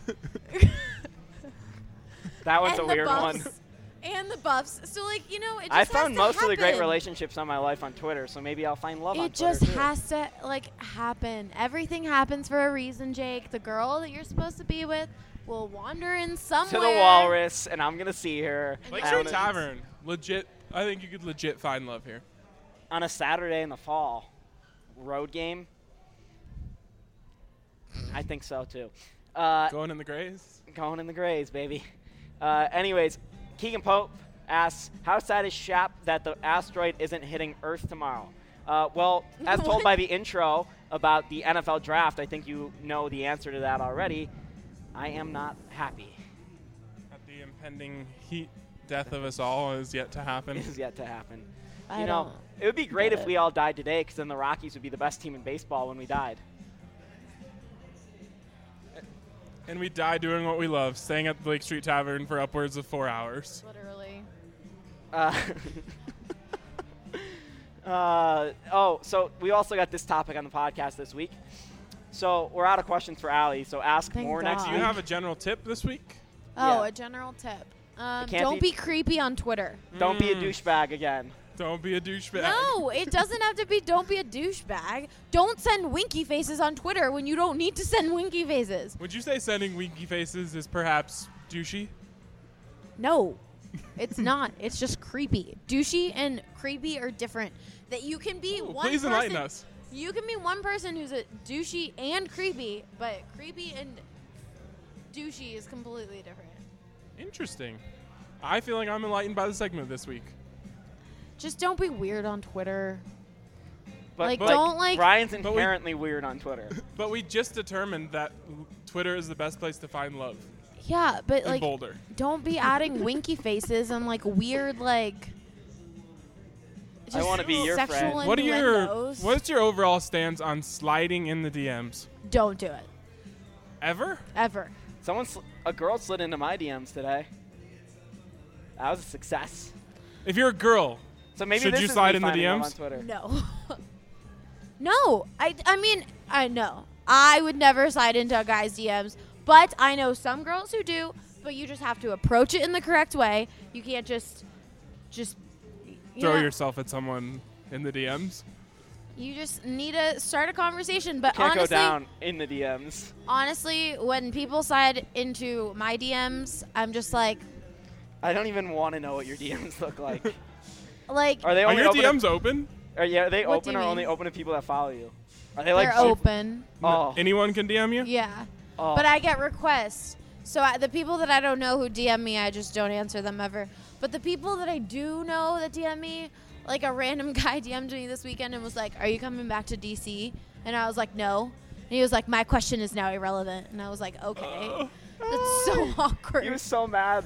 that one's and a the weird buffs, one. And the buffs. So, like, you know, it just I has found to most of the great happen. relationships on my life on Twitter, so maybe I'll find love on It Twitter just too. has to, like, happen. Everything happens for a reason, Jake. The girl that you're supposed to be with will wander in somewhere. to the Walrus, and I'm gonna see her Lakeshore on a- Tavern, legit. I think you could legit find love here. on a Saturday in the fall. Road game. I think so too. Uh, Going in the Grays. Going in the Grays, baby. Uh, anyways, Keegan Pope asks, how sad is Shap that the asteroid isn't hitting Earth tomorrow? Uh, well, as told What? by the intro about the N F L draft, I think you know the answer to that already. I am not happy. That the impending heat death of us all is yet to happen. It is yet to happen. I you know, don't it would be great get if it. we all died today, because then the Rockies would be the best team in baseball when we died. And we die doing what we love, staying at the Lake Street Tavern for upwards of four hours. Literally. Uh, uh, oh, so we also got this topic on the podcast this week. So we're out of questions for Allie, so ask Thank more next God. Do week. you have a general tip this week? Oh, Yeah. a general tip. Um, can't don't be- be creepy on Twitter. Don't be a Mm. douchebag again. Don't be a douchebag. No, it doesn't have to be don't be a douchebag. Don't send winky faces on Twitter when you don't need to send winky faces. Would you say sending winky faces is perhaps douchey? No, it's not. It's just creepy. Douchey and creepy are different. That you can be Ooh, one please person. enlighten us. You can be one person who's a douchey and creepy, but creepy and douchey is completely different. Interesting. I feel like I'm enlightened by the segment this week. Just don't be weird on Twitter. But Like, like, don't, like- Brian's we- inherently weird on Twitter. But we just determined that l- Twitter is the best place to find love Yeah, but in like, Boulder. don't be adding winky faces and like weird like. I just wanna be your sexual friend. What are your innuendos. What's your overall stance on sliding in the D Ms? Don't do it Ever? ever. Someone, sl- a girl slid into my D Ms today. That was a success. If you're a girl So maybe Should this you is slide me in the finding love D Ms? on Twitter. No. no. I, I mean, I know. I would never slide into a guy's D Ms, but I know some girls who do, but you just have to approach it in the correct way. You can't just, just you Throw know, yourself at someone in the D Ms. You just need to start a conversation. But Can't honestly, go down in the D Ms. honestly, when people slide into my D Ms, I'm just like, I don't even want to know what your D Ms look like. like Are they Are only your open D to- Ms open? Are, yeah, are they What do open you or mean? only open to people that follow you? Are they like they're super- open. Oh. Anyone can D M you? Yeah. Oh. But I get requests. So I, the people that I don't know who D M me, I just don't answer them ever. But the people that I do know that D M me, like a random guy D M'd me this weekend and was like, "Are you coming back to D C?" And I was like, "No." And he was like, "My question is now irrelevant." And I was like, "Okay." That's so awkward. He was so mad.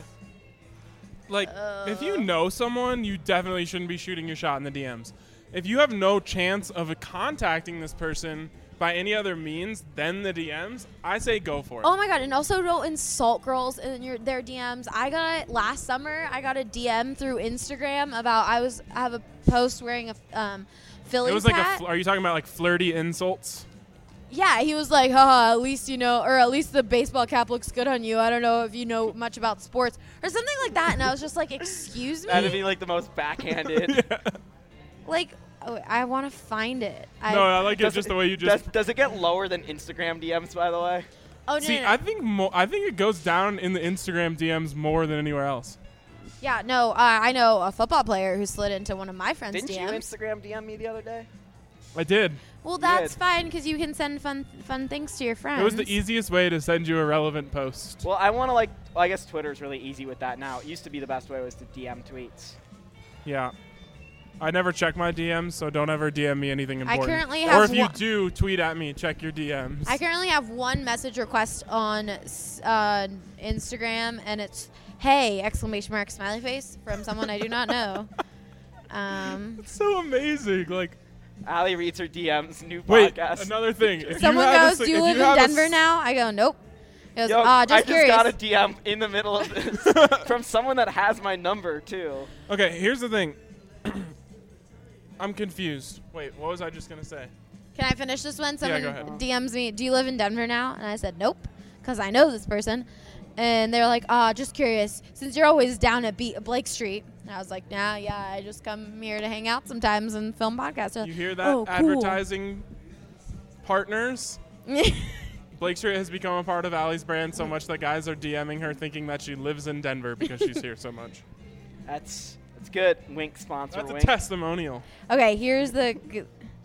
Like, if you Uh. know someone, you definitely shouldn't be shooting your shot in the D Ms. If you have no chance of contacting this person by any other means than the D Ms, I say go for it. Oh my god! And also don't insult girls in your their D Ms. I got last summer. I got a D M through Instagram about I was I have a post wearing a um, Phillies it was like hat. a. Fl- are you talking about like flirty insults? Yeah, he was like, haha, at least you know, or at least the baseball cap looks good on you. I don't know if you know much about sports or something like that. And I was just like, excuse me? That'd be like the most backhanded. Like, oh, I want to find it. I, no, I like it Does just it- the way you just. Does, does it get lower than Instagram D Ms, by the way? oh, no, See, no, no. I think mo- I think it goes down in the Instagram D Ms more than anywhere else. Yeah, no, uh, I know a football player who slid into one of my friends' Didn't D you Ms. Instagram D M me the other day? I did. Well, that's did. fine because you can send fun fun things to your friends. It was the easiest way to send you a relevant post. Well, I want to like. Well, I guess Twitter's really easy with that now. It used to be the best way was to D M tweets. Yeah. I never check my D Ms, so don't ever D M me anything I important. currently or have if you one- do, tweet at me. Check your D Ms. I currently have one message request on s- uh, Instagram, and it's "Hey!" exclamation mark smiley face from someone I do not know. Um, It's so amazing. Like, Allie reads her D Ms. New wait, podcast. another thing. If someone you have a goes, si- "Do you if live in have a Denver s- now?" I go, "Nope." He goes, Yo, "Ah, just I just curious." got a D M in the middle of this from someone that has my number too. Okay, here's the thing. I'm confused. Wait, what was I just gonna say? Can I finish this one? Someone go ahead. D Ms me, "Do you live in Denver now?" And I said, "Nope," because I know this person. And they're like, "Ah, just curious. Since you're always down at B- Blake Street." And I was like, "Nah, yeah, I just come here to hang out sometimes and film podcasts." They're You like, hear that, "Oh, cool." advertising partners? Blake Street has become a part of Allie's brand so much that guys are DMing her thinking that she lives in Denver because she's here so much. That's that's good. Wink sponsor. That's a wink. testimonial. Okay, here's the. g-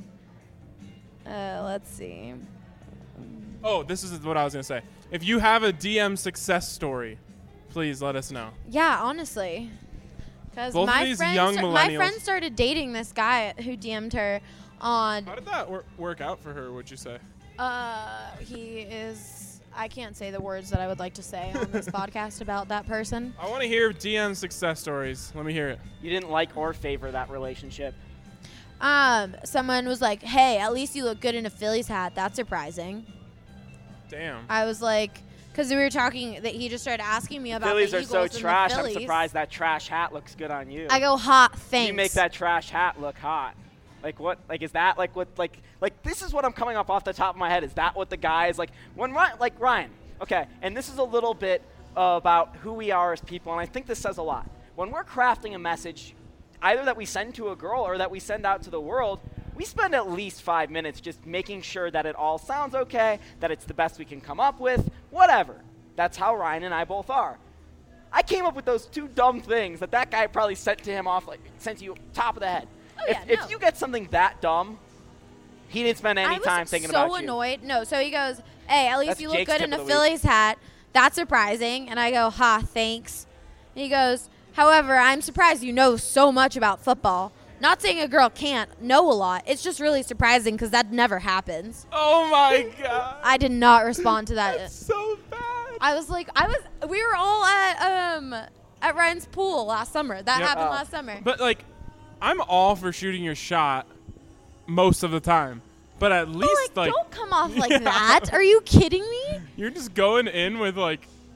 Uh, let's see. Oh, this is what I was gonna say. If you have a D M success story, please let us know. Yeah, honestly. Because Both of my these friend, young sta- my millennials- friend started dating this guy who D M'd her on. How did that wor- work out for her? Would you say? Uh, he is. I can't say the words that I would like to say on this podcast about that person. I want to hear D M success stories. Let me hear it. You didn't like or favor that relationship. Um, someone was like, "Hey, at least you look good in a Phillies hat. That's surprising." Damn. I was like, because we were talking that he just started asking me about Phillies the are Eagles so and the trash. I'm Phillies. surprised that trash hat looks good on you. I go, "Hot, thanks." You make that trash hat look hot. Like what? Like is that like what? Like like this is what I'm coming up off the top of my head. Is that what the guys like when Ryan? Like Ryan. Okay, and this is a little bit uh, about who we are as people, and I think this says a lot. When we're crafting a message, either that we send to a girl or that we send out to the world, we spend at least five minutes just making sure that it all sounds okay, that it's the best we can come up with, whatever. That's how Ryan and I both are. I came up with those two dumb things that that guy probably sent to him off, like sent to you top of the head. Oh, if, yeah, if no. you get something that dumb, he didn't spend any I time was thinking so about you. annoyed. No, so he goes, "Hey, at least That's you look Jake's good tip in of a the week. Phillies hat. That's surprising." And I go, "Ha, thanks." And he goes, "However, I'm surprised you know so much about football. Not saying a girl can't know a lot. It's just really surprising because that never happens." Oh my god. I did not respond to that. That's so bad. I was like, I was. We were all at um at Ryan's pool last summer. That Yep. happened Oh. last summer. But like, I'm all for shooting your shot most of the time. But at But, least like, like, don't come off like Yeah. that. Are you kidding me? you're just going in with like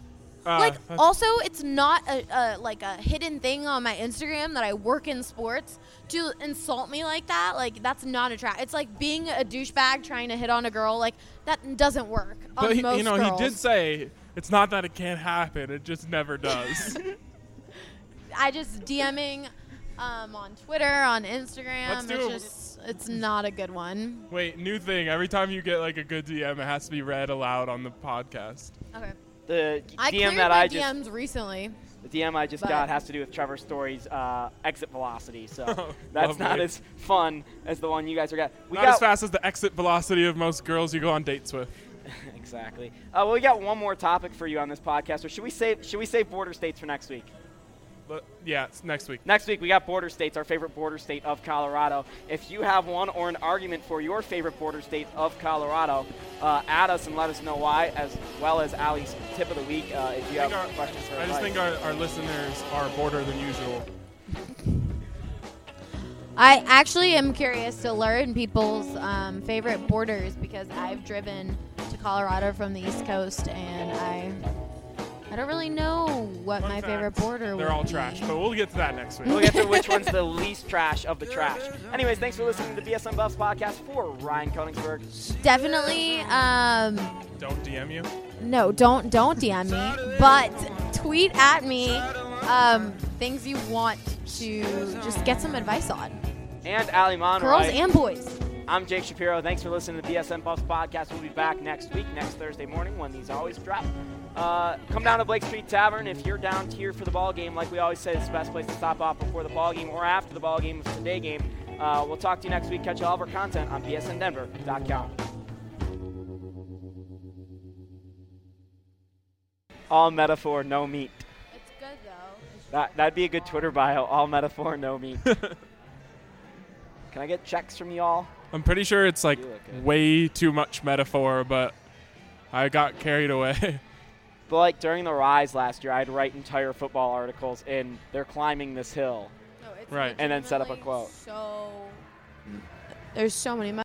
Uh, Like, that's- also, it's not a, a like a hidden thing on my Instagram that I work in sports to insult me like that. Like, that's not attractive. It's like being a douchebag trying to hit on a girl. Like, that doesn't work on but he, most you know, girls. he did say it's not that it can't happen; it just never does. I just DMing um, on Twitter, on Instagram. Let's do it's it. just, it's not a good one. Wait, new thing. Every time you get like a good D M, it has to be read aloud on the podcast. Okay. The I D M cleared that my I D just Ms recently. the D M I just but- got has to do with Trevor Story's uh, exit velocity. So Oh, that's not lovely. as fun as the one you guys are got. We Not got as fast as the exit velocity of most girls you go on dates with. exactly. Uh, well, we got one more topic for you on this podcast. Or should we save should we save border states for next week? But yeah, it's next week. Next week, we got border states, our favorite border state of Colorado. If you have one or an argument for your favorite border state of Colorado, uh, add us and let us know why, as well as Allie's tip of the week uh, if you I have think our- questions for I just advice. think our, our listeners are border than usual. I actually am curious to learn people's um, favorite borders because I've driven to Colorado from the East Coast and I I don't really know what Fun my fact, favorite border They're would all be. trash, but we'll get to that next week. We'll get to which one's the least trash of the trash. Anyways, thanks for listening to the B S N Buffs podcast for Ryan Koenigsberg. Definitely um, Don't D M you. no, don't don't D M me, but tweet at me um, things you want to just get some advice on. And Allie Monroy. Girls and boys. I'm Jake Shapiro. Thanks for listening to the B S N Buffs podcast. We'll be back next week, next Thursday morning when these always drop. Uh, come down to Blake Street Tavern if you're down here for the ball game. Like we always say, it's the best place to stop off before the ball game or after the ball game, if it's a day game. Uh, we'll talk to you next week. Catch all of our content on B S N Denver dot com. All metaphor, no meat. It's good though. That, that'd be a good Twitter bio. All metaphor, no meat. Can I get checks from y'all? I'm pretty sure it's like You look good. way too much metaphor, but I got carried away. But like during the Rise last year, I'd write entire football articles in "They're climbing this hill." No, it's Right. And then set up a legitimately quote. So there's so many.